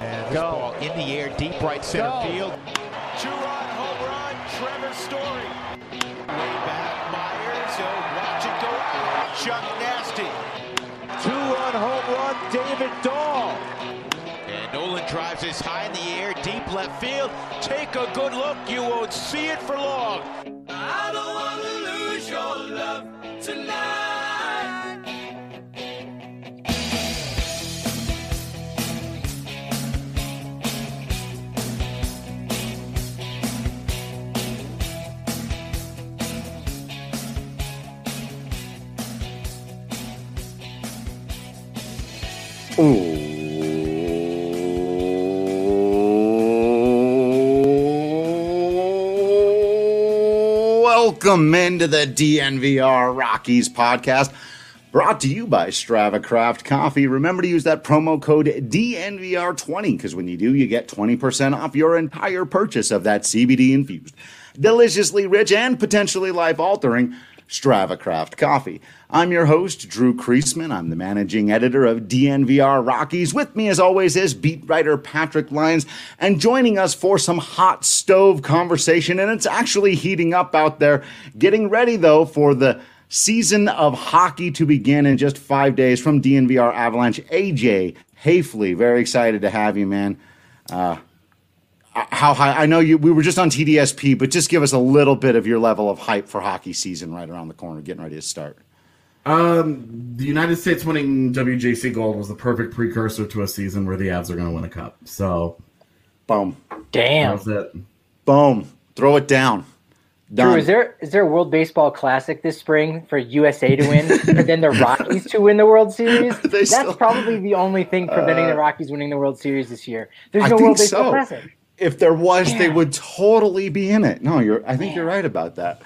And this ball in the air, deep right center field. Two-run home run, Trevor Story. Way back, Myers. Watch it go out. Chuck Nasty. Two-run home run, David Dahl. And Nolan drives this high in the air, deep left field. Take a good look, you won't see it for long. I don't want to lose your love tonight. Welcome into the DNVR Rockies podcast, brought to you by Strava Craft Coffee. Remember to use that promo code DNVR20, because when you do, you get 20% off your entire purchase of that CBD-infused, deliciously rich, and potentially life-altering Strava Craft Coffee. I'm your host, Drew Kreisman. I'm the managing editor of DNVR Rockies. With me, as always, is beat writer Patrick Lyons, and joining us for some hot stove conversation, and it's actually heating up out there. Getting ready, though, for the season of hockey to begin in just 5 days from DNVR Avalanche. AJ Haefele, very excited to have you, man. How high? I know we were just on TDSP, but just give us a little bit of your level of hype for hockey season right around the corner, getting ready to start. The United States winning WJC Gold was the perfect precursor to a season where the Avs are going to win a cup. So, boom. Damn. That's it. Boom. Throw it down. Done. Drew, is there a World Baseball Classic this spring for USA to win and then the Rockies to win the World Series? That's probably the only thing preventing the Rockies winning the World Series this year. There's no World Baseball Classic. If there was, they would totally be in it. No, I think you're right about that.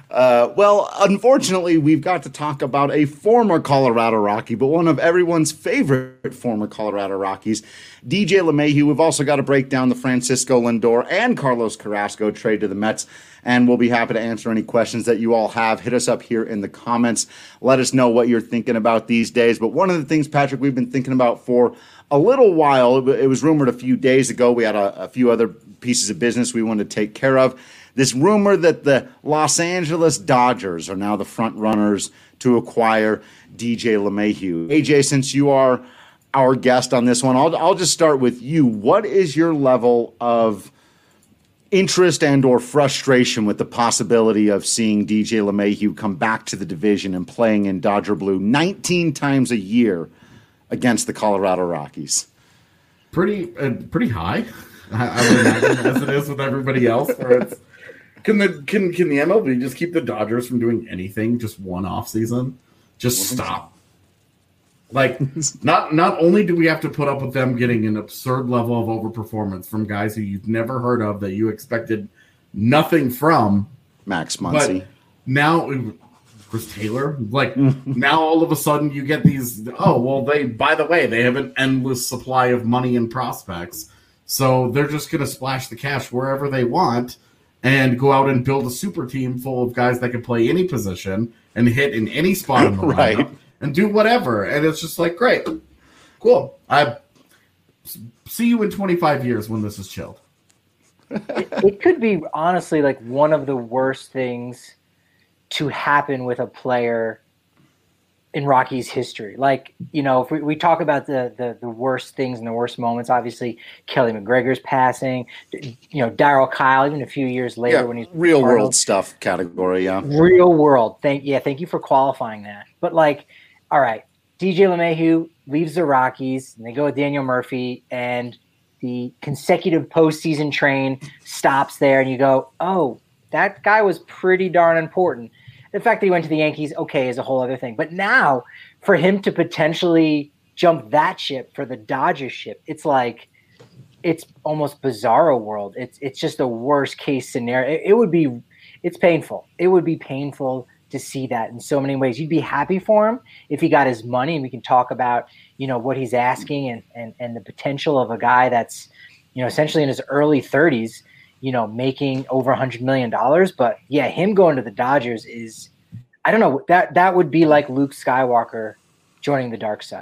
Well, unfortunately, we've got to talk about a former Colorado Rocky, but one of everyone's favorite former Colorado Rockies, DJ LeMahieu. We've also got to break down the Francisco Lindor and Carlos Carrasco trade to the Mets, and we'll be happy to answer any questions that you all have. Hit us up here in the comments. Let us know what you're thinking about these days. But one of the things, Patrick, we've been thinking about for a little while, it was rumored a few days ago, we had a few other pieces of business we wanted to take care of. This rumor that the Los Angeles Dodgers are now the front runners to acquire DJ LeMahieu. AJ, since you are our guest on this one, I'll just start with you. What is your level of interest and or frustration with the possibility of seeing DJ LeMahieu come back to the division and playing in Dodger blue 19 times a year against the Colorado Rockies? Pretty high, I would imagine, as it is with everybody else. Where it's, can the MLB just keep the Dodgers from doing anything just one off season? Just stop. Like, not only do we have to put up with them getting an absurd level of overperformance from guys who you've never heard of that you expected nothing from, Max Muncy, but now Chris Taylor, like now all of a sudden you get these. Oh well, by the way they have an endless supply of money and prospects, so they're just going to splash the cash wherever they want and go out and build a super team full of guys that can play any position and hit in any spot in the lineup and do whatever. And it's just like, great, cool. I see you in 25 years when this is chilled. It could be honestly like one of the worst things to happen with a player in Rockies history. Like, you know, if we talk about the worst things and the worst moments, obviously Kelly McGregor's passing, you know, Darryl Kyle, even a few years later when he's real world stuff category. Yeah. Real world. Thank you for qualifying that. But like, all right, DJ LeMahieu leaves the Rockies and they go with Daniel Murphy and the consecutive postseason train stops there and you go, oh, that guy was pretty darn important. The fact that he went to the Yankees, okay, is a whole other thing. But now, for him to potentially jump that ship for the Dodgers ship, it's like, it's almost bizarro world. It's just a worst case scenario. It's painful. It would be painful to see that in so many ways. You'd be happy for him if he got his money, and we can talk about, you know, what he's asking and the potential of a guy that's, you know, essentially in his early 30s, you know, making over $100 million. But yeah, him going to the Dodgers is, I don't know, that would be like Luke Skywalker joining the dark side.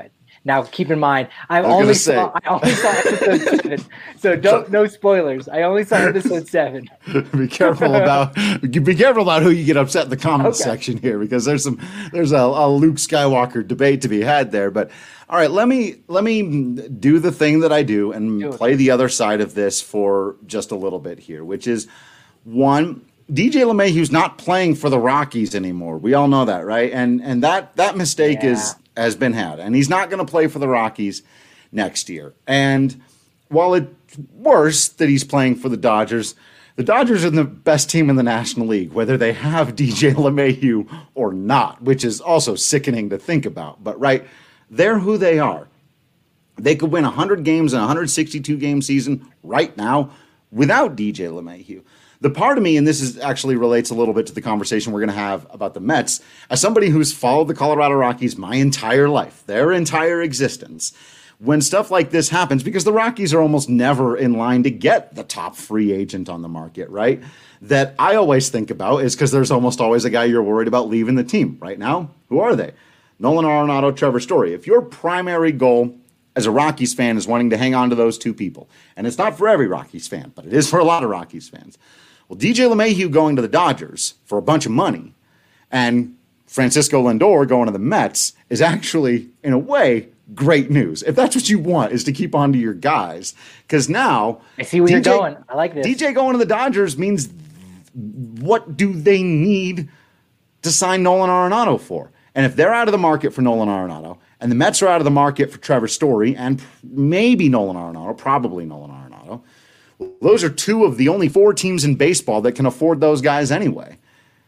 Now, keep in mind, I only saw episode 7, so no spoilers. I only saw episode 7. Be careful about who you get upset in the comments section here, because there's a Luke Skywalker debate to be had there. But all right, let me do the thing that I do and play the other side of this for just a little bit here, which is one. DJ LeMahieu's not playing for the Rockies anymore. We all know that, right? And that mistake has been had. And he's not going to play for the Rockies next year. And while it's worse that he's playing for the Dodgers are the best team in the National League, whether they have DJ LeMahieu or not, which is also sickening to think about. But, right, they're who they are. They could win 100 games in a 162-game season right now without DJ LeMahieu. The part of me, and this is actually relates a little bit to the conversation we're going to have about the Mets, as somebody who's followed the Colorado Rockies my entire life, their entire existence, when stuff like this happens, because the Rockies are almost never in line to get the top free agent on the market, right? That I always think about is because there's almost always a guy you're worried about leaving the team. Right now, who are they? Nolan Arenado, Trevor Story. If your primary goal as a Rockies fan is wanting to hang on to those two people, and it's not for every Rockies fan, but it is for a lot of Rockies fans. Well, DJ LeMahieu going to the Dodgers for a bunch of money and Francisco Lindor going to the Mets is actually, in a way, great news. If that's what you want, is to keep on to your guys. Because now... I see where you're going. I like this. DJ going to the Dodgers means what do they need to sign Nolan Arenado for? And if they're out of the market for Nolan Arenado, and the Mets are out of the market for Trevor Story, and maybe Nolan Arenado, probably Nolan Arenado, those are two of the only 4 teams in baseball that can afford those guys anyway.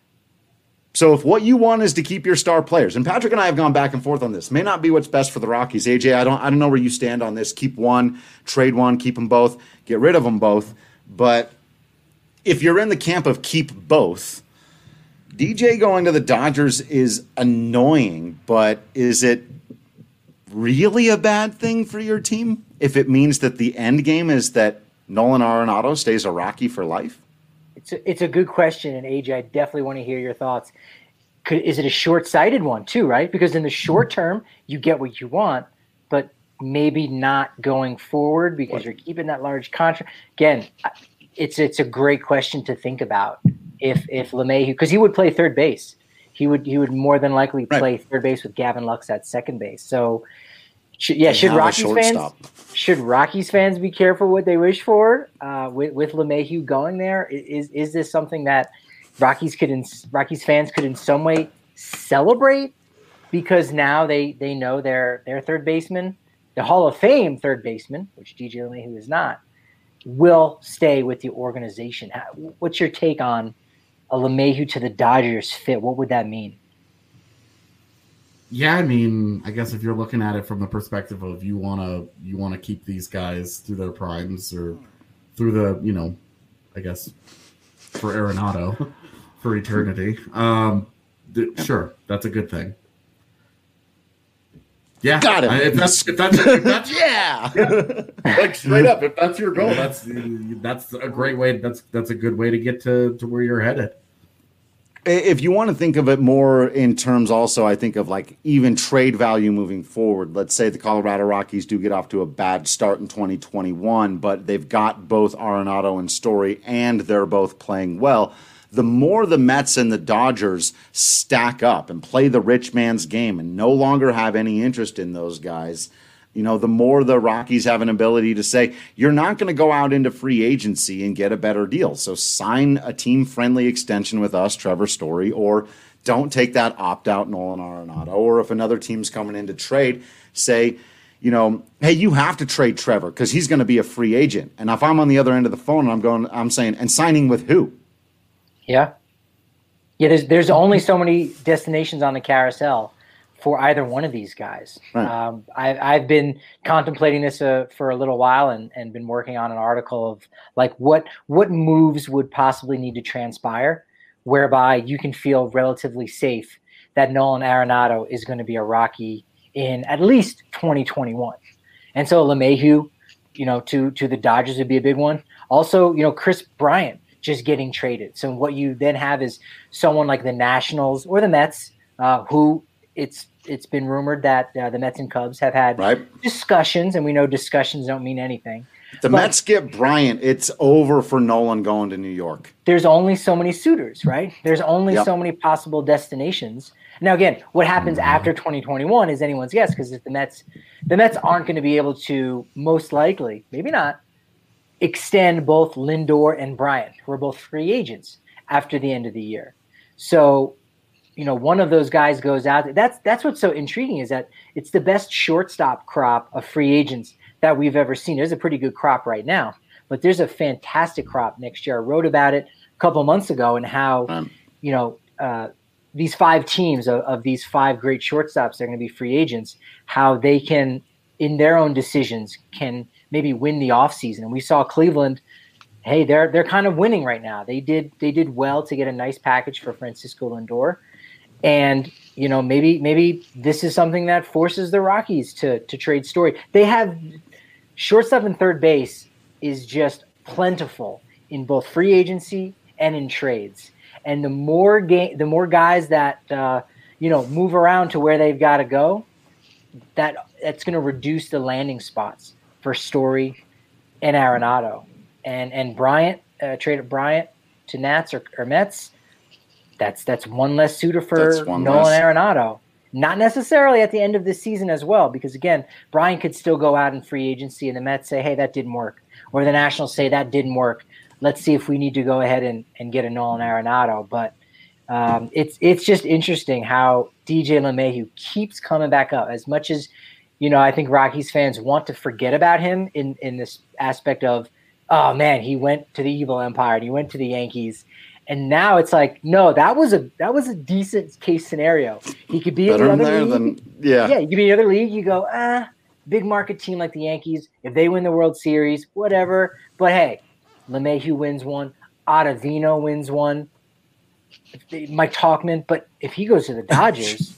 So if what you want is to keep your star players, and Patrick and I have gone back and forth on this, may not be what's best for the Rockies. AJ, I don't know where you stand on this. Keep one, trade one, keep them both, get rid of them both. But if you're in the camp of keep both, DJ going to the Dodgers is annoying, but is it really a bad thing for your team if it means that the end game is that Nolan Arenado stays a Rocky for life? It's a good question, and AJ, I definitely want to hear your thoughts. Is it a short-sighted one too, right? Because in the short term, you get what you want, but maybe not going forward because you're keeping that large contract. Again, it's a great question to think about. If LeMahieu, because he would play third base, he would more than likely play third base with Gavin Lux at second base. So, should Rockies fans be careful what they wish for with LeMahieu going there? Is this something that Rockies fans could in some way celebrate because now they know their third baseman, the Hall of Fame third baseman, which DJ LeMahieu is not, will stay with the organization? What's your take on a LeMahieu to the Dodgers fit? What would that mean? Yeah, I mean, I guess if you're looking at it from the perspective of you want to keep these guys through their primes or through the, I guess for Arenado for eternity. Sure, that's a good thing. Yeah, got it. If that's yeah, like straight up. If that's your goal, that's a great way. That's a good way to get to where you're headed. If you want to think of it more in terms also, I think of like even trade value moving forward. Let's say the Colorado Rockies do get off to a bad start in 2021, but they've got both Arenado and Story, and they're both playing well. The more the Mets and the Dodgers stack up and play the rich man's game and no longer have any interest in those guys, the more the Rockies have an ability to say, you're not going to go out into free agency and get a better deal. So sign a team-friendly extension with us, Trevor Story, or don't take that opt-out Nolan Arenado. Or if another team's coming in to trade, say, hey, you have to trade Trevor because he's going to be a free agent. And if I'm on the other end of the phone and I'm saying, and signing with who? Yeah. There's only so many destinations on the carousel for either one of these guys. Right. I've been contemplating this for a little while and been working on an article of like what moves would possibly need to transpire whereby you can feel relatively safe that Nolan Arenado is going to be a Rocky in at least 2021. And so LeMahieu, to the Dodgers would be a big one. Also, Chris Bryant just getting traded. So what you then have is someone like the Nationals or the Mets who it's it's been rumored that the Mets and Cubs have had discussions, and we know discussions don't mean anything. The Mets get Bryant. It's over for Nolan going to New York. There's only so many suitors, right? There's only so many possible destinations. Now, again, what happens after 2021 is anyone's guess, because if the Mets aren't going to be able to, most likely, maybe not, extend both Lindor and Bryant, who are both free agents after the end of the year. So, one of those guys goes out. That's what's so intriguing, is that it's the best shortstop crop of free agents that we've ever seen. There's a pretty good crop right now, but there's a fantastic crop next year. I wrote about it a couple months ago, and how, these 5 teams of these 5 great shortstops that are going to be free agents, how they can, in their own decisions, can maybe win the offseason. And we saw Cleveland, hey, they're kind of winning right now. They did well to get a nice package for Francisco Lindor. And, maybe this is something that forces the Rockies to trade Story. They have shortstop and third base is just plentiful in both free agency and in trades. And the more guys that move around to where they've got to go, that's going to reduce the landing spots for Story and Arenado. And Bryant, traded Bryant to Nats or Mets. That's one less suitor for Nolan Arenado. Not necessarily at the end of this season as well, because again, Bryant could still go out in free agency, and the Mets say, hey, that didn't work, or the Nationals say that didn't work. Let's see if we need to go ahead and get a Nolan Arenado. But it's just interesting how DJ LeMahieu keeps coming back up. As much as, I think Rockies fans want to forget about him in this aspect of, oh man, he went to the evil empire and he went to the Yankees. And now it's like, no, that was a decent case scenario. He could be in the other league. Yeah, he could be in the other league. You go, big market team like the Yankees, if they win the World Series, whatever. But hey, LeMahieu wins one, Ottavino wins one, Mike Tauchman. But if he goes to the Dodgers,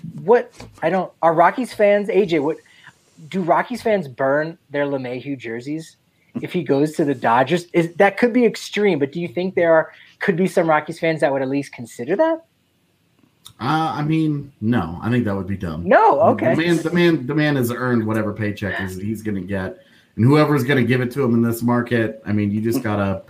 are Rockies fans, AJ, do Rockies fans burn their LeMahieu jerseys if he goes to the Dodgers? That could be extreme, but do you think could be some Rockies fans that would at least consider that? No. I think that would be dumb. No, okay. The man has earned whatever paycheck he's going to get, and whoever's going to give it to him in this market. You just gotta,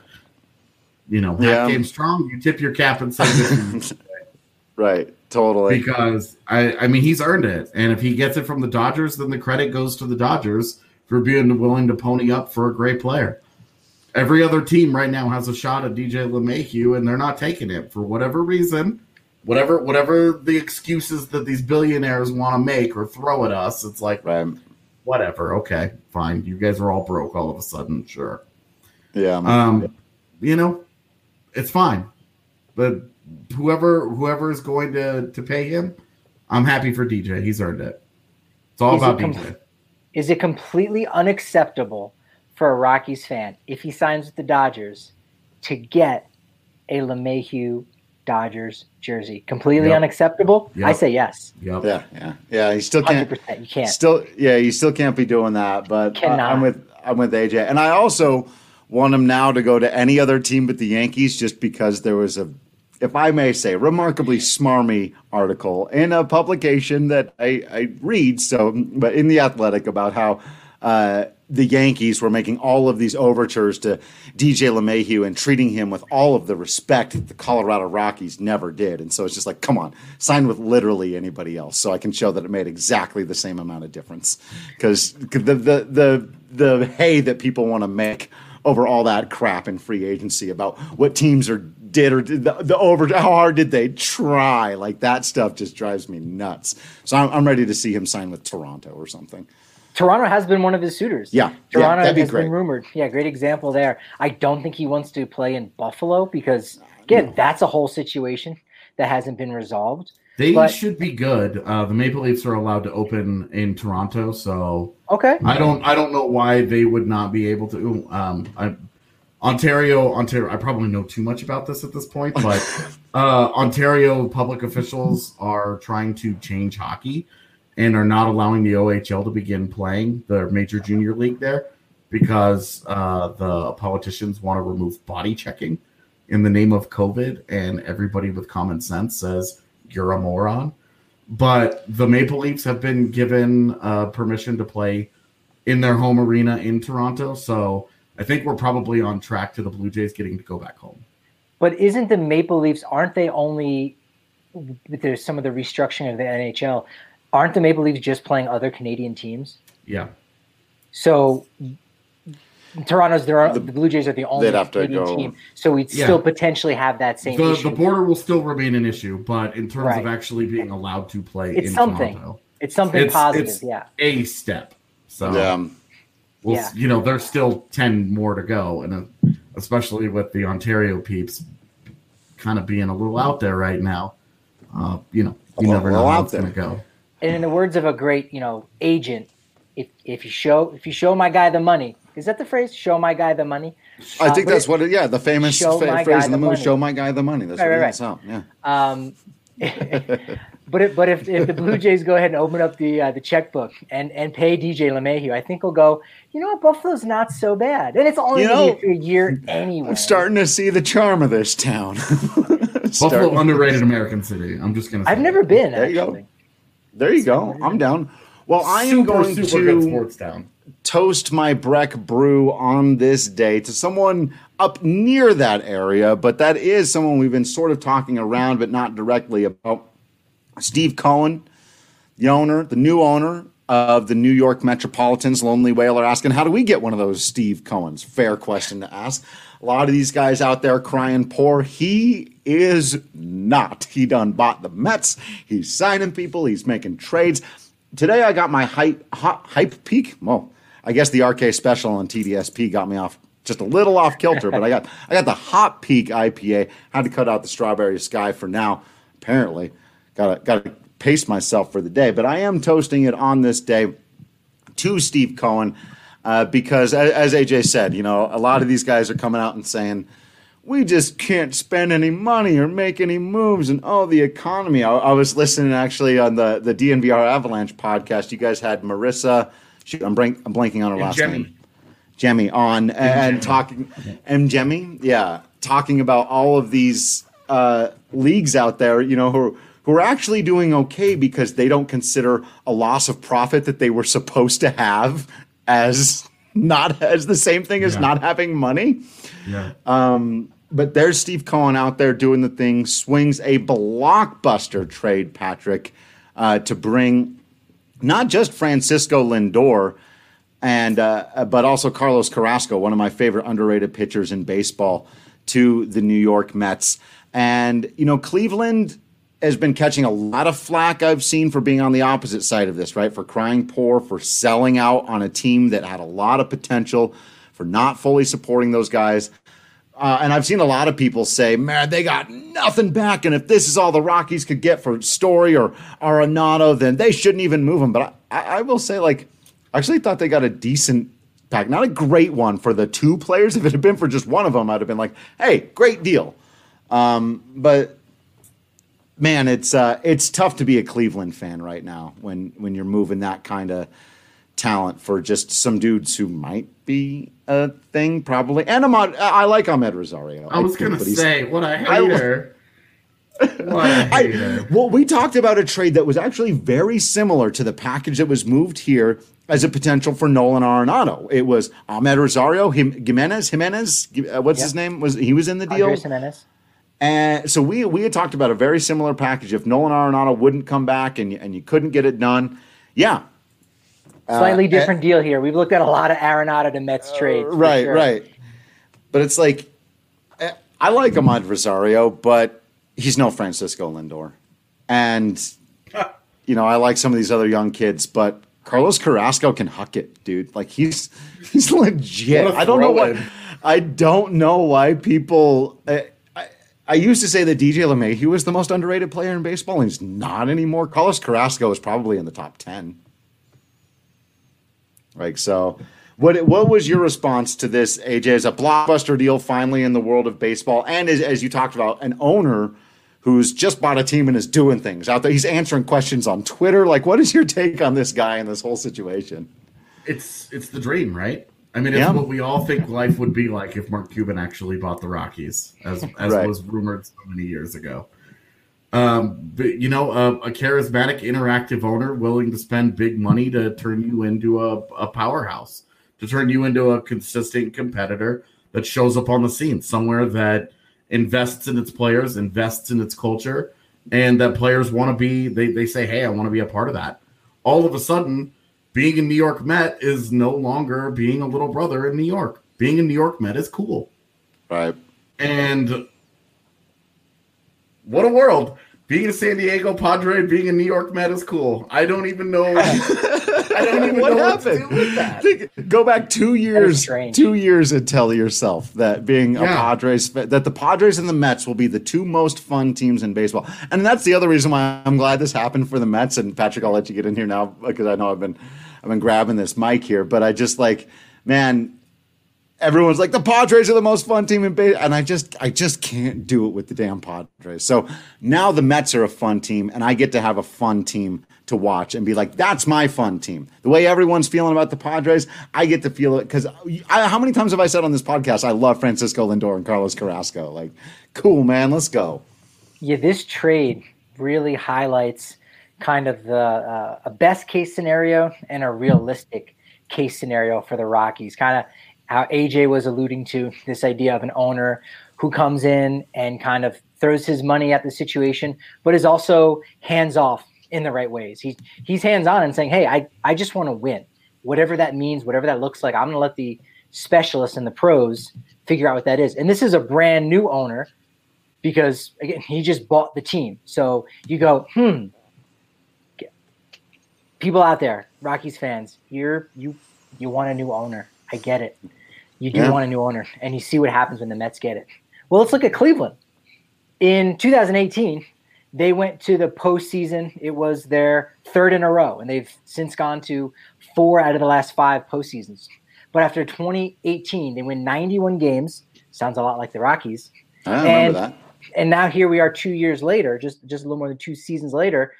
half game strong. You tip your cap and say, right, totally. Because he's earned it, and if he gets it from the Dodgers, then the credit goes to the Dodgers for being willing to pony up for a great player. Every other team right now has a shot at DJ LeMahieu, and they're not taking it for whatever reason. Whatever the excuses that these billionaires want to make or throw at us, it's like, whatever, okay, fine. You guys are all broke all of a sudden, sure. Yeah. It's fine. But whoever is going to pay him, I'm happy for DJ. He's earned it. It's all about DJ. Is it completely unacceptable for a Rockies fan, if he signs with the Dodgers, to get a LeMahieu Dodgers jersey? Completely unacceptable? Yep. I say yes. Yep. Yeah. You still can't. 100%. You can't. You still can't be doing that. But I'm with AJ, and I also want him now to go to any other team but the Yankees, just because there was if I may say, remarkably smarmy article in a publication that I read. But in the Athletic, about how the Yankees were making all of these overtures to DJ LeMahieu and treating him with all of the respect that the Colorado Rockies never did. And so it's just like, come on, sign with literally anybody else, so I can show that it made exactly the same amount of difference. Because the hay that people want to make over all that crap in free agency about what teams did how hard did they try, like that stuff just drives me nuts. So I'm ready to see him sign with Toronto or something. Toronto has been one of his suitors. Yeah, Toronto has been rumored. Yeah, great example there. I don't think he wants to play in Buffalo because, again, that's a whole situation that hasn't been resolved. They should be good. The Maple Leafs are allowed to open in Toronto, so okay. I don't know why they would not be able to. Ontario. I probably know too much about this at this point, but Ontario public officials are trying to change hockey and are not allowing the OHL to begin playing the major junior league there because the politicians want to remove body checking in the name of COVID, and everybody with common sense says you're a moron. but the Maple Leafs have been given permission to play in their home arena in Toronto. So I think we're probably on track to the Blue Jays getting to go back home. But isn't the Maple Leafs, aren't they only, there's some of the restructuring of the NHL, aren't the Maple Leafs just playing other Canadian teams? Yeah. So Toronto's, the Blue Jays are the only Canadian team. So we'd still potentially have that same issue. The border will still remain an issue, but in terms of actually being allowed to play in Toronto. It's something positive, it's a step. So, there's still 10 more to go, and especially with the Ontario peeps kind of being a little out there right now, you never know how it's going to go. And in the words of a great, agent, if you show my guy the money, is that the phrase? Show my guy the money. I think that's what. The famous phrase in the movie. Show my guy the money. That's what it's out. Yeah. But if the Blue Jays go ahead and open up the checkbook and pay DJ LeMahieu, I think we'll go, Buffalo's not so bad. And it's only for a year anyway. I'm starting to see the charm of this town. Buffalo, underrated American city. I'm just going to say I've never been, there actually. There you go. I'm down. Well, I am going good to sports town. Toast my Breck brew on this day to someone up near that area, but that is someone we've been sort of talking around, but not directly about. Steve Cohen, the new owner of the New York Metropolitans, Lonely Whaler, asking, how do we get one of those Steve Cohens? Fair question to ask. A lot of these guys out there crying poor. He is not. He done bought the Mets. He's signing people. He's making trades. Today I got my hype peak. Well, I guess the RK special on TDSP got me off just a little off kilter, but I got the Hot Peak IPA. Had to cut out the Strawberry Sky for now, apparently. Got to pace myself for the day, but I am toasting it on this day to Steve Cohen because, as AJ said, a lot of these guys are coming out and saying, we just can't spend any money or make any moves, and the economy. I was listening actually on the DNVR Avalanche podcast. You guys had Marissa, I'm blanking on her last name, Jemmy on and talking, and Jemmy, talking about all of these leagues out there, who are actually doing okay because they don't consider a loss of profit that they were supposed to have as the same thing as not having money. Yeah. But there's Steve Cohen out there doing the thing, swings a blockbuster trade, Patrick, to bring not just Francisco Lindor but also Carlos Carrasco, one of my favorite underrated pitchers in baseball, to the New York Mets. And, Cleveland has been catching a lot of flack I've seen for being on the opposite side of this, right? For crying poor, for selling out on a team that had a lot of potential, for not fully supporting those guys. And I've seen a lot of people say, man, they got nothing back. And if this is all the Rockies could get for Story or Arenado, then they shouldn't even move him. But I will say, I actually thought they got a decent pack. Not a great one for the two players. If it had been for just one of them, I'd have been like, hey, great deal. But man, it's tough to be a Cleveland fan right now when you're moving that kind of talent for just some dudes who might be a thing, probably. And I like Ahmed Rosario. I was going to say, what a hater. Well, we talked about a trade that was actually very similar to the package that was moved here as a potential for Nolan Arenado. It was Ahmed Rosario, Jimenez, what's his name? He was in the deal? Andres Jimenez. And so we had talked about a very similar package. If Nolan Arenado wouldn't come back and you couldn't get it done, slightly different deal here. We've looked at a lot of Arenado to Mets trades. Right. But it's like, I like Ahmed Rosario, but he's no Francisco Lindor. And, I like some of these other young kids, but Carlos Carrasco can huck it, dude. Like he's legit. I don't know why people. I used to say that DJ LeMahieu was the most underrated player in baseball, and he's not anymore. Carlos Carrasco is probably in the top 10. So what was your response to this, AJ? As a blockbuster deal finally in the world of baseball, and as you talked about, an owner who's just bought a team and is doing things out there. He's answering questions on Twitter. What is your take on this guy and this whole situation? It's the dream, right? I mean, it's what we all think life would be like if Mark Cuban actually bought the Rockies, as was rumored so many years ago. A charismatic, interactive owner willing to spend big money to turn you into a powerhouse, to turn you into a consistent competitor that shows up on the scene, somewhere that invests in its players, invests in its culture, and that players want to be, they say, hey, I want to be a part of that. All of a sudden, being a New York Met is no longer being a little brother in New York. Being a New York Met is cool. Right. And what a world. Being a San Diego Padre, being a New York Met is cool. I don't even know. I don't even what know happened. what to do with that. Go back 2 years. 2 years and tell yourself that being a Padres, that the Padres and the Mets will be the two most fun teams in baseball. And that's the other reason why I'm glad this happened for the Mets. And Patrick, I'll let you get in here now because I know I've been grabbing this mic here. But I just man. Everyone's like, the Padres are the most fun team in baseball. And I just can't do it with the damn Padres. So now the Mets are a fun team, and I get to have a fun team to watch and be like, that's my fun team. The way everyone's feeling about the Padres, I get to feel it. Because how many times have I said on this podcast, I love Francisco Lindor and Carlos Carrasco? Like, cool, man, let's go. Yeah, this trade really highlights kind of a best case scenario and a realistic case scenario for the Rockies. Kind of how AJ was alluding to, this idea of an owner who comes in and kind of throws his money at the situation, but is also hands off in the right ways. He's hands on and saying, hey, I just want to win. Whatever that means, whatever that looks like, I'm going to let the specialists and the pros figure out what that is. And this is a brand new owner because, again, he just bought the team. So you go, people out there, Rockies fans, you want a new owner. I get it. You do want a new owner, and you see what happens when the Mets get it. Well, let's look at Cleveland. In 2018, they went to the postseason. It was their third in a row, and they've since gone to 4 out of the last 5 postseasons. But after 2018, they win 91 games. Sounds a lot like the Rockies. I remember that. And now here we are 2 years later, just a little more than 2 seasons later.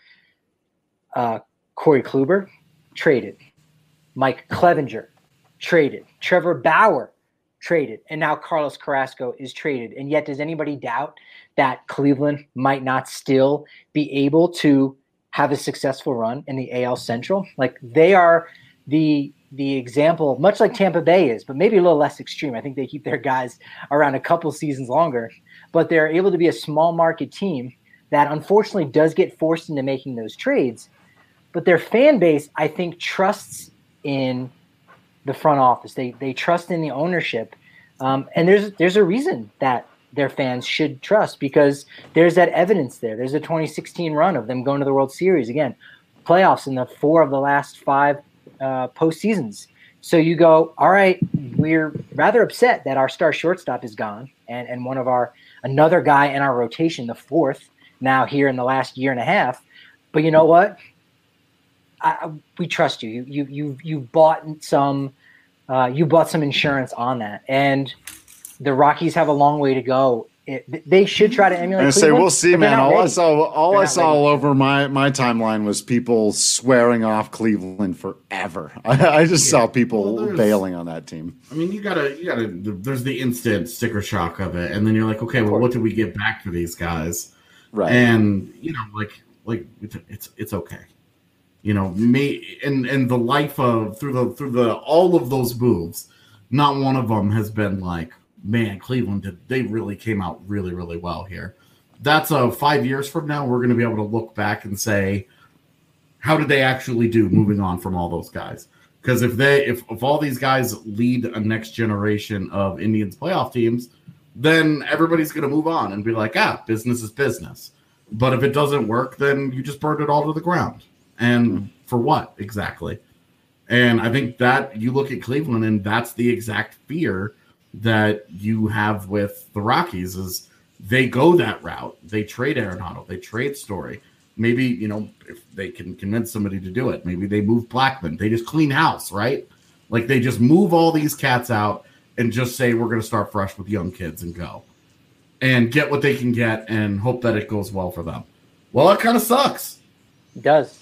Corey Kluber, traded. Mike Clevinger, traded. Trevor Bauer, traded. And now Carlos Carrasco is traded. And yet, does anybody doubt that Cleveland might not still be able to have a successful run in the AL Central? Like, they are the example, much like Tampa Bay is, but maybe a little less extreme. I think they keep their guys around a couple seasons longer. But they're able to be a small market team that unfortunately does get forced into making those trades. But their fan base, I think, trusts in the front office. They trust in the ownership. And there's a reason that their fans should trust, because there's that evidence there. There's a 2016 run of them going to the World Series. Again, playoffs in the 4 of the last 5 postseasons. So you go, all right, we're rather upset that our star shortstop is gone. And another guy in our rotation, the 4th, now here in the last year and a half. But you know what? We trust you. You bought some insurance on that, and the Rockies have a long way to go. They should try to emulate. I say we'll see, man. All I saw all over my timeline was people swearing off Cleveland forever. I just saw people bailing on that team. I mean, you gotta. There's the instant sticker shock of it, and then you're like, okay, well, what did we get back for these guys? Right. And like it's okay. Me and the life of through the all of those moves, not one of them has been like, man, Cleveland they really came out really, really well here. That's 5 years from now, we're going to be able to look back and say, how did they actually do moving on from all those guys? Because if all these guys lead a next generation of Indians playoff teams, then everybody's going to move on and be like, business is business. But if it doesn't work, then you just burned it all to the ground. And for what exactly? And I think that you look at Cleveland, and that's the exact fear that you have with the Rockies is they go that route. They trade Arenado. They trade Story. Maybe, if they can convince somebody to do it, maybe they move Blackmon. They just clean house, right? Like they just move all these cats out and just say, we're going to start fresh with young kids and go. And get what they can get and hope that it goes well for them. Well, it kind of sucks. It does.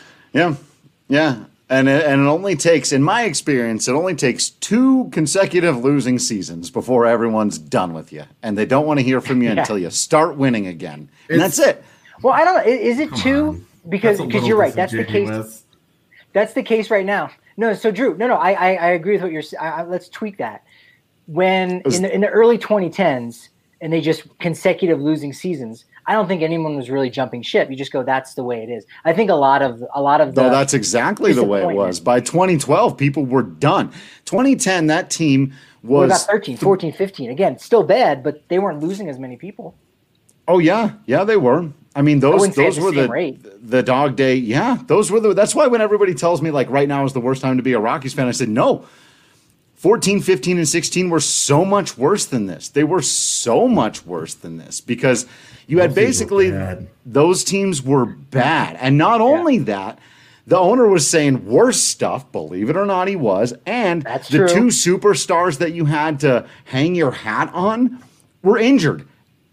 Yeah. And it only takes, in my experience, 2 consecutive losing seasons before everyone's done with you. And they don't want to hear from you until you start winning again. And that's it. Well, I don't know. Is it Come two? on. Because That's a little you're right. That's the case. disingenuous. That's the case right now. No, so Drew, I agree with what you're saying. Let's tweak that. When in the early 2010s, and they just consecutive losing seasons, I don't think anyone was really jumping ship. You just go, that's the way it is. I think a lot of the. No, that's exactly the way it was. By 2012, people were done. 2010, that team was. What about 13, 14, 15? Again, still bad, but they weren't losing as many people. Oh yeah, they were. I mean, those were the dog day. Yeah, those were that's why when everybody tells me like right now is the worst time to be a Rockies fan, I said no. 14, 15, and 16 were so much worse than this. They were so much worse than this because you had basically those teams were bad. And not only that, the owner was saying worse stuff, believe it or not, he was. And That's the true. two superstars that you had to hang your hat on were injured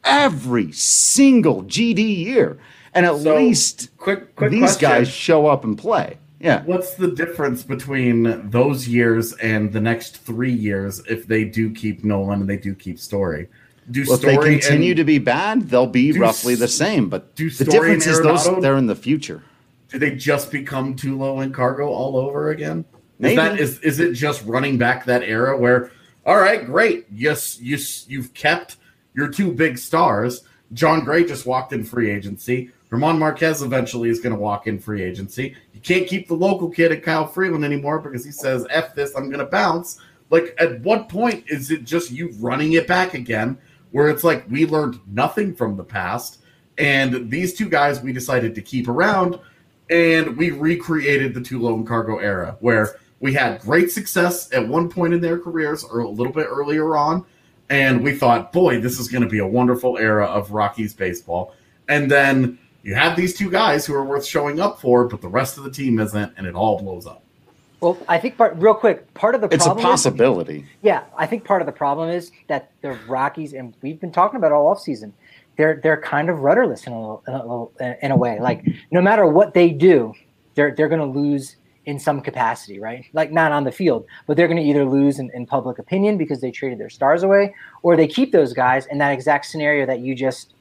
every single GD year. And at least quick these question. guys show up and play. Yeah. What's the difference between those years and the next 3 years if they do keep Nolan and they do keep Story? If they continue to be bad, they'll be roughly the same. But the difference is they're in the future. Do they just become Tulo and Cargo all over again? Maybe. Is it just running back that era where, all right, great, yes, you've kept your two big stars. John Gray just walked in free agency. Ramon Marquez eventually is going to walk in free agency. You can't keep the local kid at Kyle Freeland anymore because he says, F this, I'm going to bounce. Like, at what point is it just you running it back again where it's like we learned nothing from the past and these two guys we decided to keep around and we recreated the Tulo and Cargo era where we had great success at one point in their careers or a little bit earlier on, and we thought, boy, this is going to be a wonderful era of Rockies baseball. And then you have these two guys who are worth showing up for, but the rest of the team isn't, and it all blows up. Well, I think part of the problem It's a possibility. I think part of the problem is that the Rockies, and we've been talking about it all offseason, they're kind of rudderless in a way. Like, no matter what they do, they're going to lose in some capacity, right? Like, not on the field, but they're going to either lose in public opinion because they traded their stars away, or they keep those guys, and that exact scenario that you just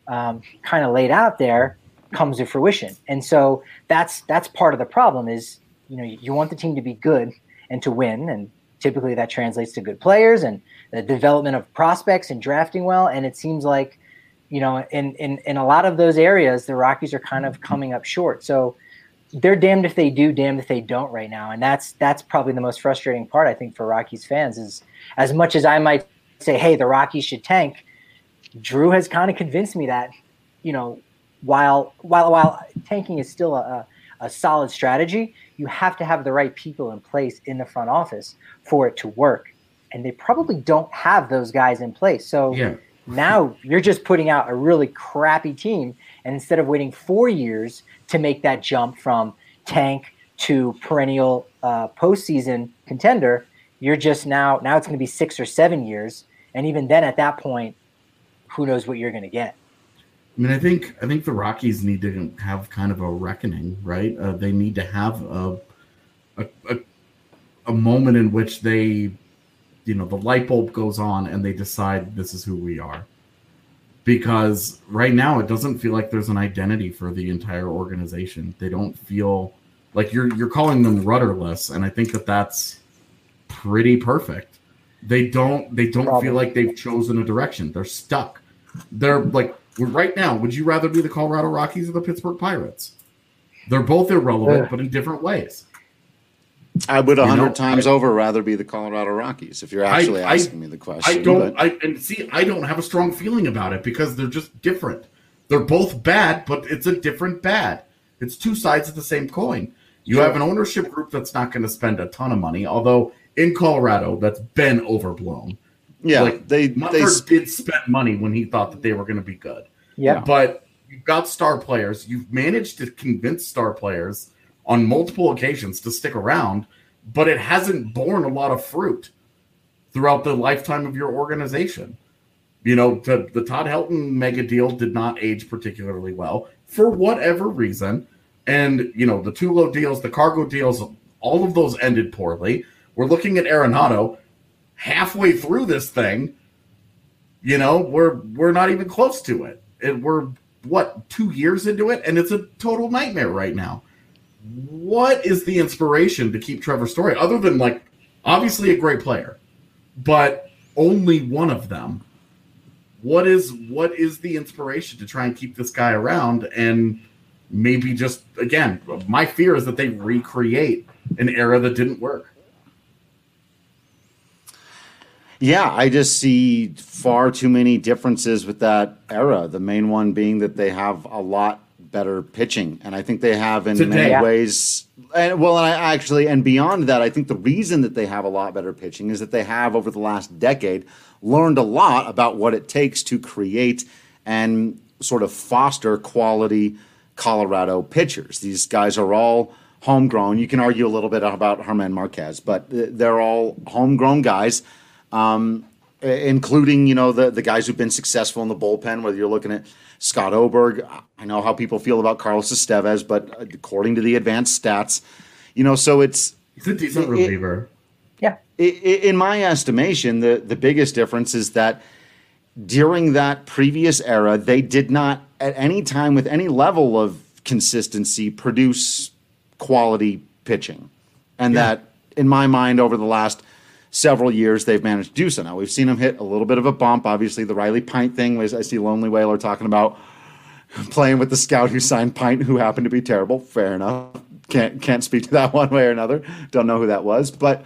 kind of laid out there comes to fruition. And so that's part of the problem is, you want the team to be good and to win. And typically that translates to good players and the development of prospects and drafting well. And it seems like, in a lot of those areas, the Rockies are kind of coming up short. So they're damned if they do, damned if they don't right now. And that's probably the most frustrating part, I think, for Rockies fans is as much as I might say, hey, the Rockies should tank, Drew has kind of convinced me that, while tanking is still a solid strategy, you have to have the right people in place in the front office for it to work. And they probably don't have those guys in place. So now you're just putting out a really crappy team. And instead of waiting 4 years to make that jump from tank to perennial postseason contender, you're just now it's going to be 6 or 7 years. And even then at that point, who knows what you're going to get. I mean, I think the Rockies need to have kind of a reckoning, right? They need to have a moment in which they, the light bulb goes on and they decide this is who we are. Because right now it doesn't feel like there's an identity for the entire organization. They don't feel like you're calling them rudderless, and I think that's pretty perfect. They don't feel like they've chosen a direction. They're stuck. They're like, right now, would you rather be the Colorado Rockies or the Pittsburgh Pirates? They're both irrelevant, but in different ways. I would 100 times over rather be the Colorado Rockies if you're actually asking me the question. I don't have a strong feeling about it because they're just different. They're both bad, but it's a different bad. It's two sides of the same coin. You have an ownership group that's not going to spend a ton of money, although in Colorado that's been overblown. Yeah, Mutford did spend money when he thought that they were going to be good. Yeah, but you've got star players. You've managed to convince star players on multiple occasions to stick around, but it hasn't borne a lot of fruit throughout the lifetime of your organization. The Todd Helton mega deal did not age particularly well for whatever reason, and the Tulo deals, the Cargo deals, all of those ended poorly. We're looking at Arenado. Halfway through this thing, we're not even close to it. We're 2 years into it, and it's a total nightmare right now. What is the inspiration to keep Trevor Story, other than, like, obviously a great player, but only one of them? What is the inspiration to try and keep this guy around? And maybe just, again, my fear is that they recreate an era that didn't work. Yeah, I just see far too many differences with that era. The main one being that they have a lot better pitching, and I think they have in many ways. And beyond that, I think the reason that they have a lot better pitching is that they have, over the last decade, learned a lot about what it takes to create and sort of foster quality Colorado pitchers. These guys are all homegrown. You can argue a little bit about Germán Marquez, but they're all homegrown guys. Including, the guys who've been successful in the bullpen, whether you're looking at Scott Oberg. I know how people feel about Carlos Estevez, but according to the advanced stats, so he's a decent reliever. Yeah. In my estimation, the biggest difference is that during that previous era, they did not at any time with any level of consistency produce quality pitching. And that, in my mind, over the last several years, they've managed to do so. Now, we've seen them hit a little bit of a bump. Obviously, the Riley Pint thing was, I see Lonely Whaler talking about playing with the scout who signed Pint, who happened to be terrible. Fair enough. Can't speak to that one way or another. Don't know who that was. But,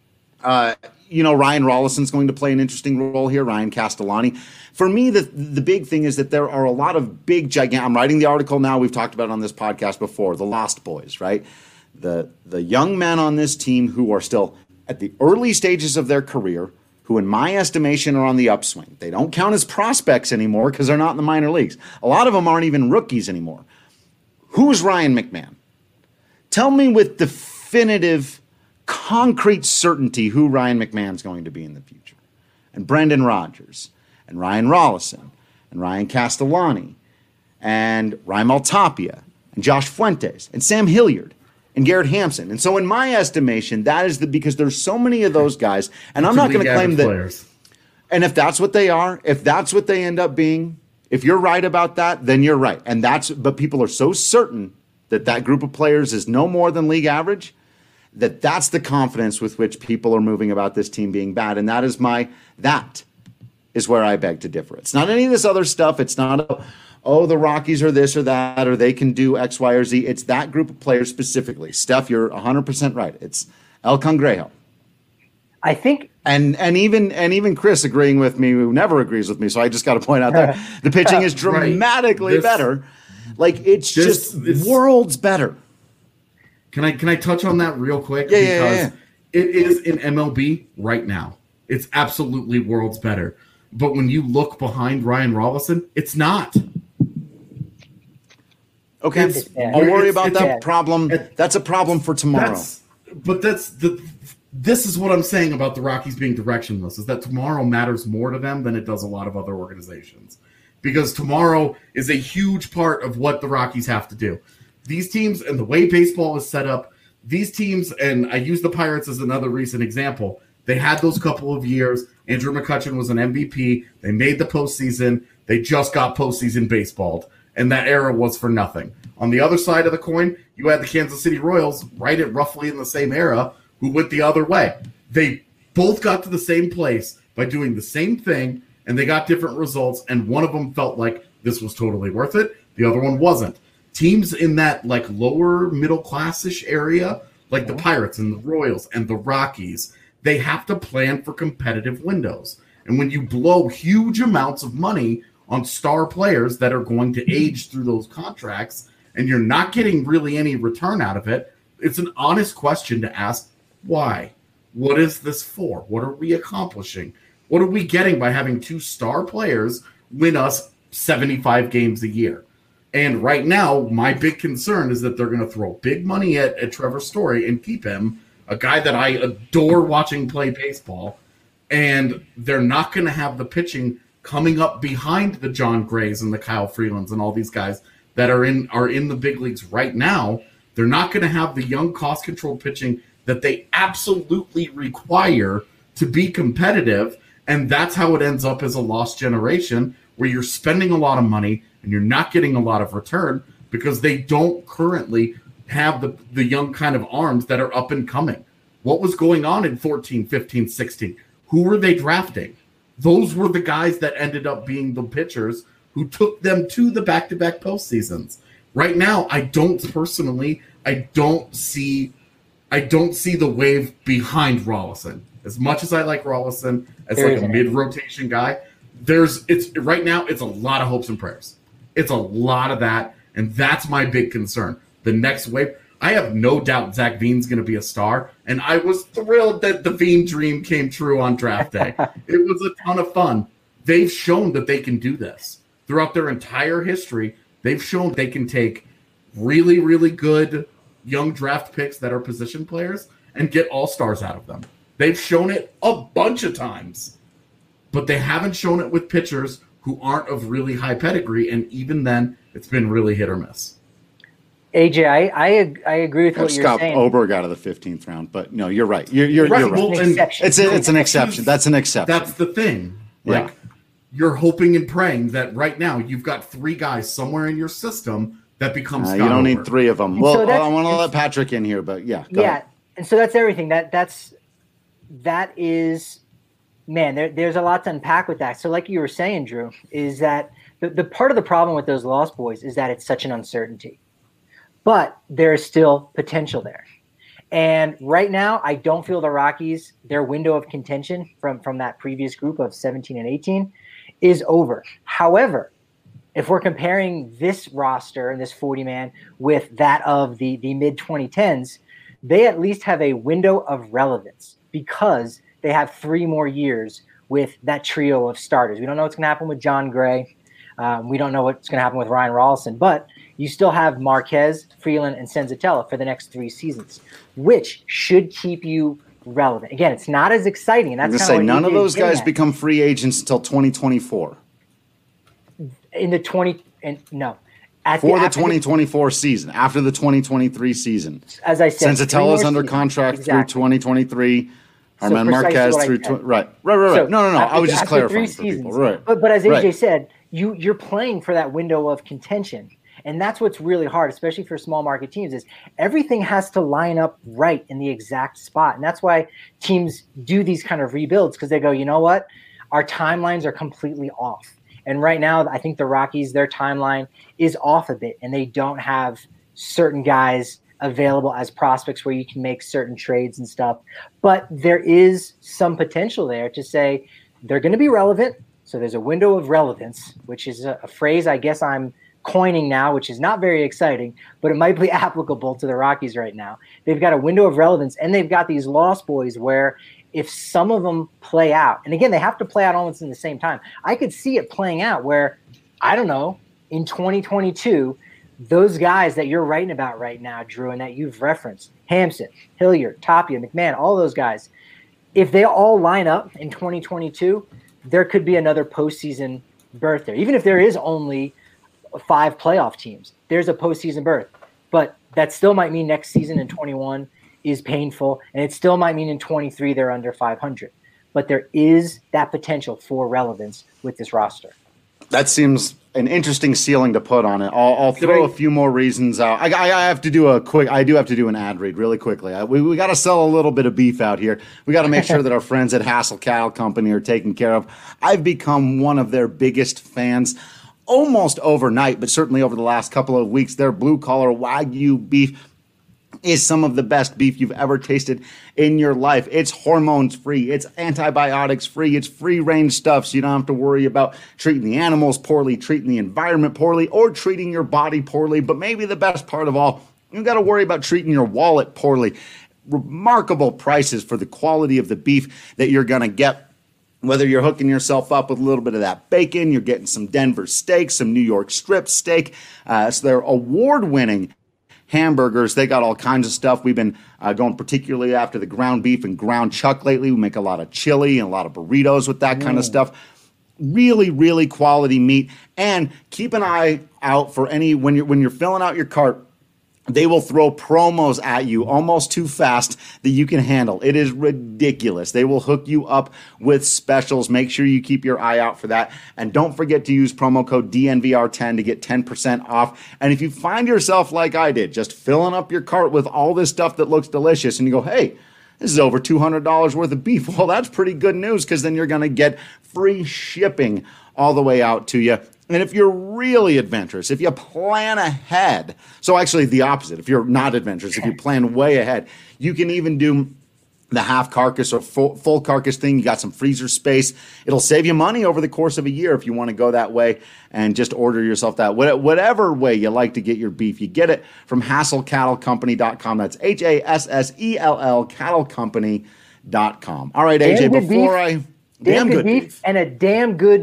Ryan Rollison's going to play an interesting role here, Ryan Castellani. For me, the big thing is that there are a lot of big, gigantic – I'm writing the article now. We've talked about it on this podcast before, the Lost Boys, right? The young men on this team who are still – at the early stages of their career, who in my estimation are on the upswing. They don't count as prospects anymore because they're not in the minor leagues. A lot of them aren't even rookies anymore. Who's Ryan McMahon? Tell me with definitive, concrete certainty who Ryan McMahon's going to be in the future. And Brendan Rodgers, and Ryan Rollison, and Ryan Castellani, and Raimel Tapia, and Josh Fuentes, and Sam Hilliard, and Garrett Hampson. And so in my estimation, that is because there's so many of those guys, and I'm not going to claim that players. And if that's what they are, if that's what they end up being, if you're right about that, then you're right. But people are so certain that group of players is no more than league average, that's the confidence with which people are moving about this team being bad. And that is where I beg to differ. It's not any of this other stuff. It's not the Rockies are this or that, or they can do X, Y, or Z. It's that group of players specifically. Steph, you're 100% right. It's El Cangrejo. I think, and even Chris agreeing with me, who never agrees with me. So I just got to point out that the pitching is dramatically better. Like it's worlds better. Can I touch on that real quick? Yeah. It is in MLB right now. It's absolutely worlds better. But when you look behind Ryan Rollison, it's not. Okay, I'll worry about that problem. That's a problem for tomorrow. This is what I'm saying about the Rockies being directionless, is that tomorrow matters more to them than it does a lot of other organizations. Because tomorrow is a huge part of what the Rockies have to do. These teams, and the way baseball is set up, these teams, and I use the Pirates as another recent example, they had those couple of years. Andrew McCutchen was an MVP. They made the postseason. They just got postseason baseballed. And that era was for nothing. On the other side of the coin, you had the Kansas City Royals right at roughly in the same era who went the other way. They both got to the same place by doing the same thing, and they got different results, and one of them felt like this was totally worth it. The other one wasn't. Teams in that like lower middle class-ish area, like the Pirates and the Royals and the Rockies, they have to plan for competitive windows. And when you blow huge amounts of money on star players that are going to age through those contracts, and you're not getting really any return out of it, it's an honest question to ask, why? What is this for? What are we accomplishing? What are we getting by having two star players win us 75 games a year? And right now, my big concern is that they're going to throw big money at Trevor Story and keep him, a guy that I adore watching play baseball, and they're not going to have the pitching coming up behind the John Grays and the Kyle Freelands and all these guys that are in the big leagues right now. They're not going to have the young cost-controlled pitching that they absolutely require to be competitive, and that's how it ends up as a lost generation where you're spending a lot of money and you're not getting a lot of return because they don't currently have the young kind of arms that are up and coming. What was going on in 14, 15, 16? Who were they drafting? Those were the guys that ended up being the pitchers who took them to the back-to-back postseasons. Right now, I don't see the wave behind Rolison. As much as I like Rolison as like a mid-rotation guy, right now it's a lot of hopes and prayers. It's a lot of that, and that's my big concern. The next wave, I have no doubt Zach Veen's going to be a star, and I was thrilled that the Veen dream came true on draft day. It was a ton of fun. They've shown that they can do this. Throughout their entire history, they've shown they can take really, really good young draft picks that are position players and get all-stars out of them. They've shown it a bunch of times, but they haven't shown it with pitchers who aren't of really high pedigree, and even then, it's been really hit or miss. AJ, I agree with what you're saying. Scott Oberg out of the 15th round, but no, you're right. You're right. Well, it's an exception. That's an exception. That's the thing. Like, you're hoping and praying that right now you've got three guys somewhere in your system that become Scott You don't Oberg. need three of them. And Well, so I want to let Patrick in here, but go ahead. And so that's everything. That is, man, there's a lot to unpack with that. So like you were saying, Drew, is that the part of the problem with those Lost Boys is that it's such an uncertainty. But there's still potential there. And right now, I don't feel the Rockies, their window of contention from that previous group of 17 and 18 is over. However, if we're comparing this roster and this 40-man with that of the mid-2010s, they at least have a window of relevance because they have 3 more years with that trio of starters. We don't know what's going to happen with John Gray. We don't know what's going to happen with Ryan Rolison, but you still have Marquez, Freeland, and Senzatella for the next 3 seasons, which should keep you relevant. Again, it's not as exciting. And that's I'm going to say none of those guys become free agents until 2024. In the 2024 season, after the 2023 season. As I said, Senzatella's under contract through 2023. Arman Marquez through right. So no. I was just clarifying for people. Right. But as AJ said, you're playing for that window of contention. And that's what's really hard, especially for small market teams, is everything has to line up right in the exact spot. And that's why teams do these kind of rebuilds, because they go, you know what? Our timelines are completely off. And right now, I think the Rockies, their timeline is off a bit, and they don't have certain guys available as prospects where you can make certain trades and stuff. But there is some potential there to say they're going to be relevant. So there's a window of relevance, which is a phrase I guess I'm coining now, which is not very exciting, but it might be applicable to the Rockies right now. They've got a window of relevance, and they've got these Lost Boys where if some of them play out, and again, they have to play out almost in the same time. I could see it playing out where, I don't know, in 2022, those guys that you're writing about right now, Drew, and that you've referenced, Hampson, Hilliard, Tapia, McMahon, all those guys, if they all line up in 2022, there could be another postseason berth there. Even if there is only 5 playoff teams, there's a postseason berth. But that still might mean next season in 21 is painful, and it still might mean in 23 they're under 500. But there is that potential for relevance with this roster. That seems an interesting ceiling to put on it. I'll throw a few more reasons out. I have to do I do have to do an ad read really quickly. We got to sell a little bit of beef out here. We got to make sure that our friends at Hassel Cattle Company are taken care of. I've become one of their biggest fans almost overnight, but certainly over the last couple of weeks. Their blue-collar Wagyu beef is some of the best beef you've ever tasted in your life. It's hormones-free. It's antibiotics-free. It's free-range stuff, so you don't have to worry about treating the animals poorly, treating the environment poorly, or treating your body poorly. But maybe the best part of all, you got to worry about treating your wallet poorly. Remarkable prices for the quality of the beef that you're going to get. Whether you're hooking yourself up with a little bit of that bacon, you're getting some Denver steak, some New York strip steak. So they're award-winning hamburgers. They got all kinds of stuff. We've been going particularly after the ground beef and ground chuck lately. We make a lot of chili and a lot of burritos with that kind of stuff. Really, really quality meat. And keep an eye out for when you're filling out your cart. They will throw promos at you almost too fast that you can handle. It is ridiculous. They will hook you up with specials. Make sure you keep your eye out for that. And don't forget to use promo code DNVR10 to get 10% off. And if you find yourself like I did, just filling up your cart with all this stuff that looks delicious, and you go, hey, this is over $200 worth of beef. Well, that's pretty good news, because then you're going to get free shipping all the way out to you. And if you're really adventurous, if you plan ahead, so actually the opposite, if you're not adventurous, if you plan way ahead, you can even do the half carcass or full carcass thing. You got some freezer space. It'll save you money over the course of a year if you want to go that way and just order yourself that. Whatever way you like to get your beef, you get it from HassellCattleCompany.com. That's HASSELL CattleCompany.com. All right, AJ, damn good beef and a damn good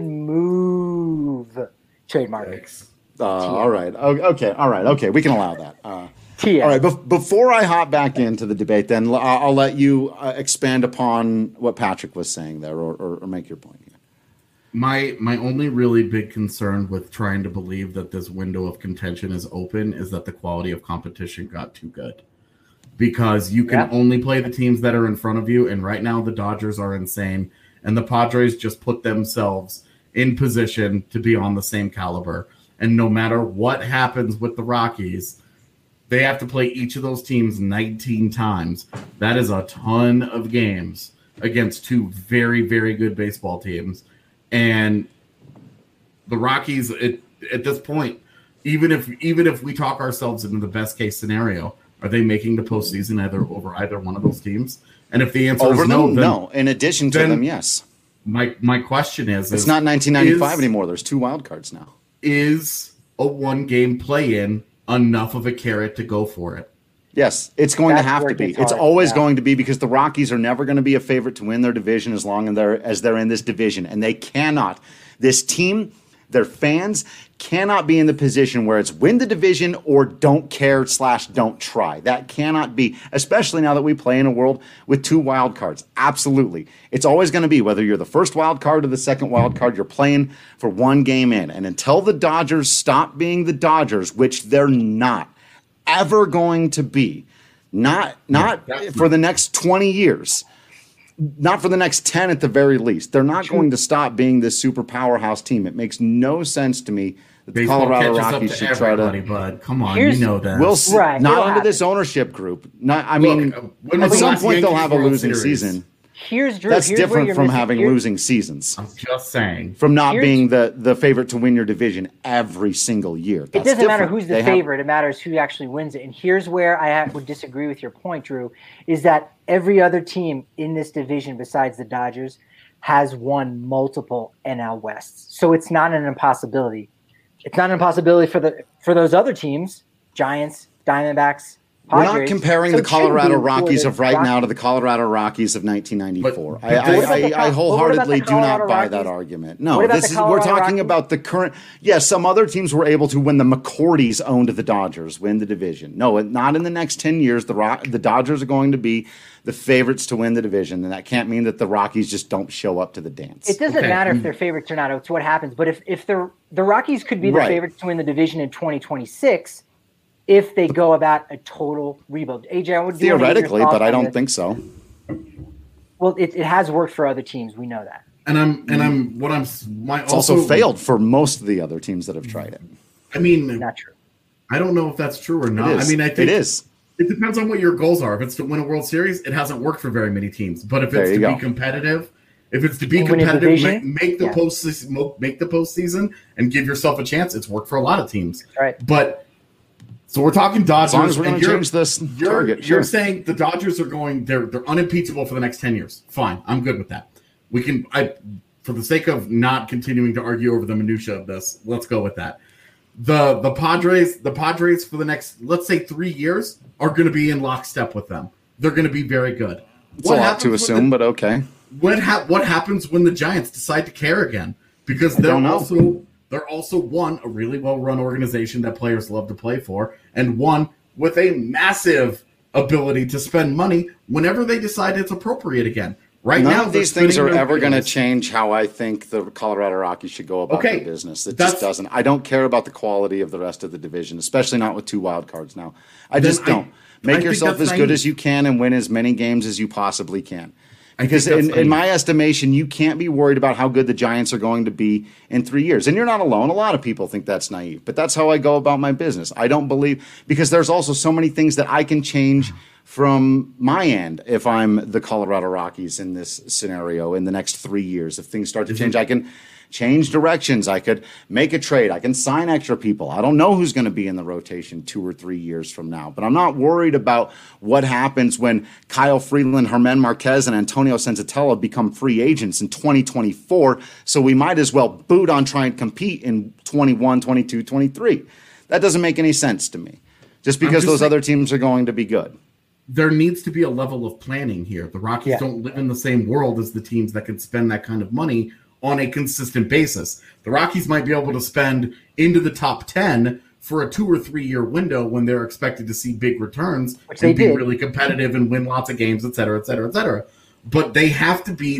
move. Trademark. All right. Okay. All right. Okay. We can allow that. All right. Before I hop back into the debate, then I'll let you expand upon what Patrick was saying there, or make your point here. My only really big concern with trying to believe that this window of contention is open is that the quality of competition got too good. Because you can only play the teams that are in front of you, and right now the Dodgers are insane, and the Padres just put themselves in position to be on the same caliber. And no matter what happens with the Rockies, they have to play each of those teams 19 times. That is a ton of games against two very, very good baseball teams. And the Rockies, at this point, even if we talk ourselves into the best case scenario, are they making the postseason over either one of those teams? And if the answer is no, no. In addition to them, yes. My question is it's not 1995 anymore. There's 2 wild cards now. Is a 1-game play-in enough of a carrot to go for it? Yes, it's going to have to be. It's always going to be, because the Rockies are never going to be a favorite to win their division as long as they're in this division. And they cannot. This team, their fans, cannot be in the position where it's win the division or don't care / don't try. That cannot be, especially now that we play in a world with 2 wild cards. Absolutely. It's always going to be, whether you're the first wild card or the second wild card, you're playing for 1 game in. And until the Dodgers stop being the Dodgers, which they're not ever going to be, not for the next 20 years, not for the next 10 at the very least. They're not going to stop being this super powerhouse team. It makes no sense to me that the Colorado Rockies should try to. Bud. Come on, you know that. We'll see. Right, not under this ownership group. At some point they'll have a losing season. That's different from having losing seasons. I'm just saying. From not being the favorite to win your division every single year. It doesn't matter who's the favorite. It matters who actually wins it. And here's where I would disagree with your point, Drew, is that every other team in this division besides the Dodgers has won multiple NL Wests. So it's not an impossibility. It's not an impossibility for those other teams, Giants, Diamondbacks, Padres. We're not comparing the Colorado Rockies of right now to the Colorado Rockies of 1994. I wholeheartedly do not buy that argument. No, we're talking about the current. Yes, some other teams were able to, when the McCourties owned the Dodgers, win the division. No, not in the next 10 years. The Dodgers are going to be the favorites to win the division, and that can't mean that the Rockies just don't show up to the dance. It doesn't matter if they're favorites or not. It's what happens. But if the Rockies could be the favorites to win the division in 2026, if they go about a total rebuild. AJ, I would theoretically, but I don't think so. Well, it has worked for other teams. We know that. It's also failed for most of the other teams that have tried it. I mean, not true. I don't know if that's true or not. I mean, I think it is. It depends on what your goals are. If it's to win a World Series, it hasn't worked for very many teams. But if it's to be competitive, make the postseason and give yourself a chance. It's worked for a lot of teams. Right. But so we're talking Dodgers. As long as we're going to change this target. You're saying the Dodgers are they're unimpeachable for the next 10 years. Fine. I'm good with that. For the sake of not continuing to argue over the minutia of this, let's go with that. The Padres for the next, let's say, 3 years are going to be in lockstep with them. They're going to be very good. It's a lot to assume, but okay. What happens when the Giants decide to care again? Because they're also one, a really well-run organization that players love to play for, and one with a massive ability to spend money whenever they decide it's appropriate again. Right None now, of these things are ever going to change how I think the Colorado Rockies should go about their business. It just doesn't. I don't care about the quality of the rest of the division, especially not with 2 wild cards now. I just don't. Make yourself as good as you can and win as many games as you possibly can. Because in my estimation, you can't be worried about how good the Giants are going to be in 3 years. And you're not alone. A lot of people think that's naive. But that's how I go about my business. I don't believe – because there's also so many things that I can change from my end if I'm the Colorado Rockies in this scenario in the next 3 years. If things start to change, I can change directions. I could make a trade. I can sign extra people. I don't know who's going to be in the rotation 2 or 3 years from now. But I'm not worried about what happens when Kyle Freeland, Germán Marquez, and Antonio Senzatella become free agents in 2024. So we might as well boot on trying to compete in 21, 22, 23. That doesn't make any sense to me. Just because those other teams are going to be good. There needs to be a level of planning here. The Rockies don't live in the same world as the teams that can spend that kind of money on a consistent basis. The Rockies might be able to spend into the top 10 for a 2 or 3 year window when they're expected to see big returns and be really competitive and win lots of games, et cetera, et cetera, et cetera. But they have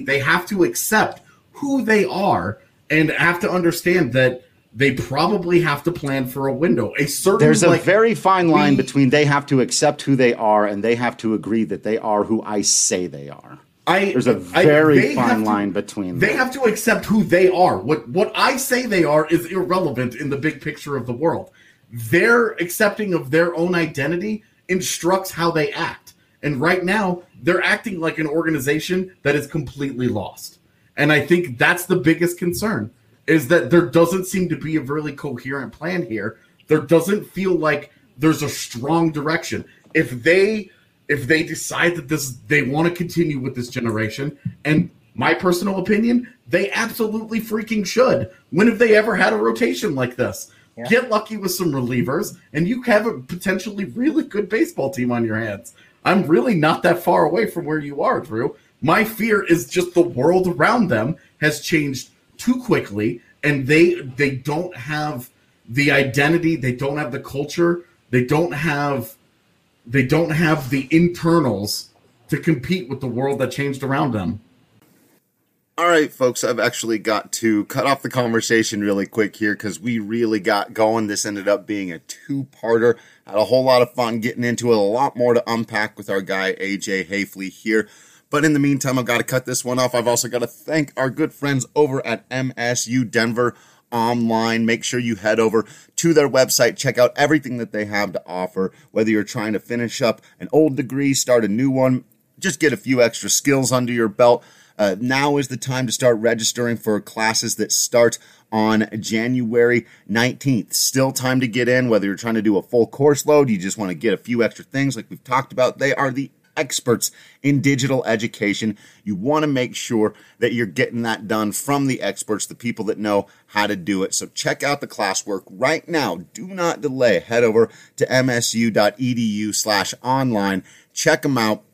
to accept who they are and have to understand that they probably have to plan for a window. There's a very fine line between they have to accept who they are and they have to agree that they are who I say they are. There's a very fine line between them. They have to accept who they are. What I say they are is irrelevant in the big picture of the world. Their accepting of their own identity instructs how they act. And right now, they're acting like an organization that is completely lost. And I think that's the biggest concern, is that there doesn't seem to be a really coherent plan here. There doesn't feel like there's a strong direction. If they decide that they want to continue with this generation, and my personal opinion, they absolutely freaking should. When have they ever had a rotation like this? Yeah. Get lucky with some relievers, and you have a potentially really good baseball team on your hands. I'm really not that far away from where you are, Drew. My fear is just the world around them has changed too quickly, and they don't have the identity, they don't have the culture, they don't have the internals to compete with the world that changed around them. All right, folks, I've actually got to cut off the conversation really quick here because we really got going. This ended up being a 2-parter. Had a whole lot of fun getting into it, a lot more to unpack with our guy, AJ Haefele here. But in the meantime, I've got to cut this one off. I've also got to thank our good friends over at MSU Denver Online. Make sure you head over to their website, check out everything that they have to offer, whether you're trying to finish up an old degree, start a new one, just get a few extra skills under your belt. Now is the time to start registering for classes that start on January 19th. Still time to get in, whether you're trying to do a full course load, you just want to get a few extra things like we've talked about. They are the experts in digital education. You want to make sure that you're getting that done from the experts, the people that know how to do it. So check out the classwork right now. Do not delay. Head over to msu.edu/online. Check them out.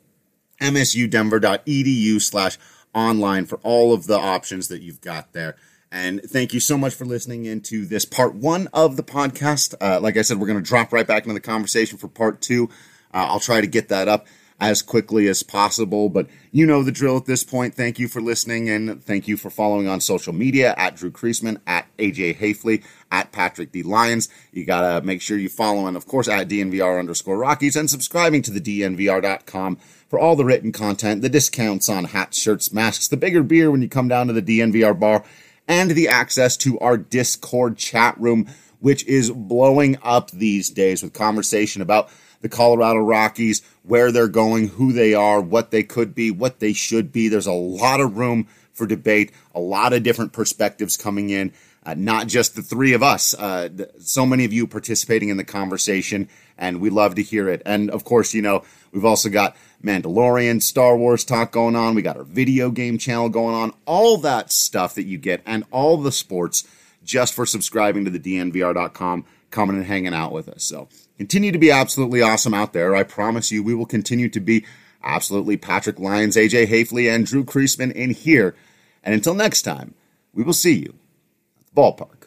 msudenver.edu/online for all of the options that you've got there. And thank you so much for listening into this part 1 of the podcast. Like I said, we're going to drop right back into the conversation for part 2. I'll try to get that up as quickly as possible, but you know the drill at this point. Thank you for listening, and thank you for following on social media at Drew Creasman, at AJ Haefele, at Patrick D. Lyons. You gotta make sure you follow, and of course at DNVR_Rockies, and subscribing to the DNVR.com for all the written content, the discounts on hats, shirts, masks, the bigger beer when you come down to the DNVR bar, and the access to our Discord chat room, which is blowing up these days with conversation about the Colorado Rockies, where they're going, who they are, what they could be, what they should be. There's a lot of room for debate, a lot of different perspectives coming in, not just the three of us. So many of you participating in the conversation, and we love to hear it. And of course, you know, we've also got Mandalorian, Star Wars talk going on. We got our video game channel going on, all that stuff that you get, and all the sports just for subscribing to the DNVR.com, coming and hanging out with us. So continue to be absolutely awesome out there. I promise you we will continue to be absolutely Patrick Lyons, AJ Haefele, and Drew Creasman in here. And until next time, we will see you at the ballpark.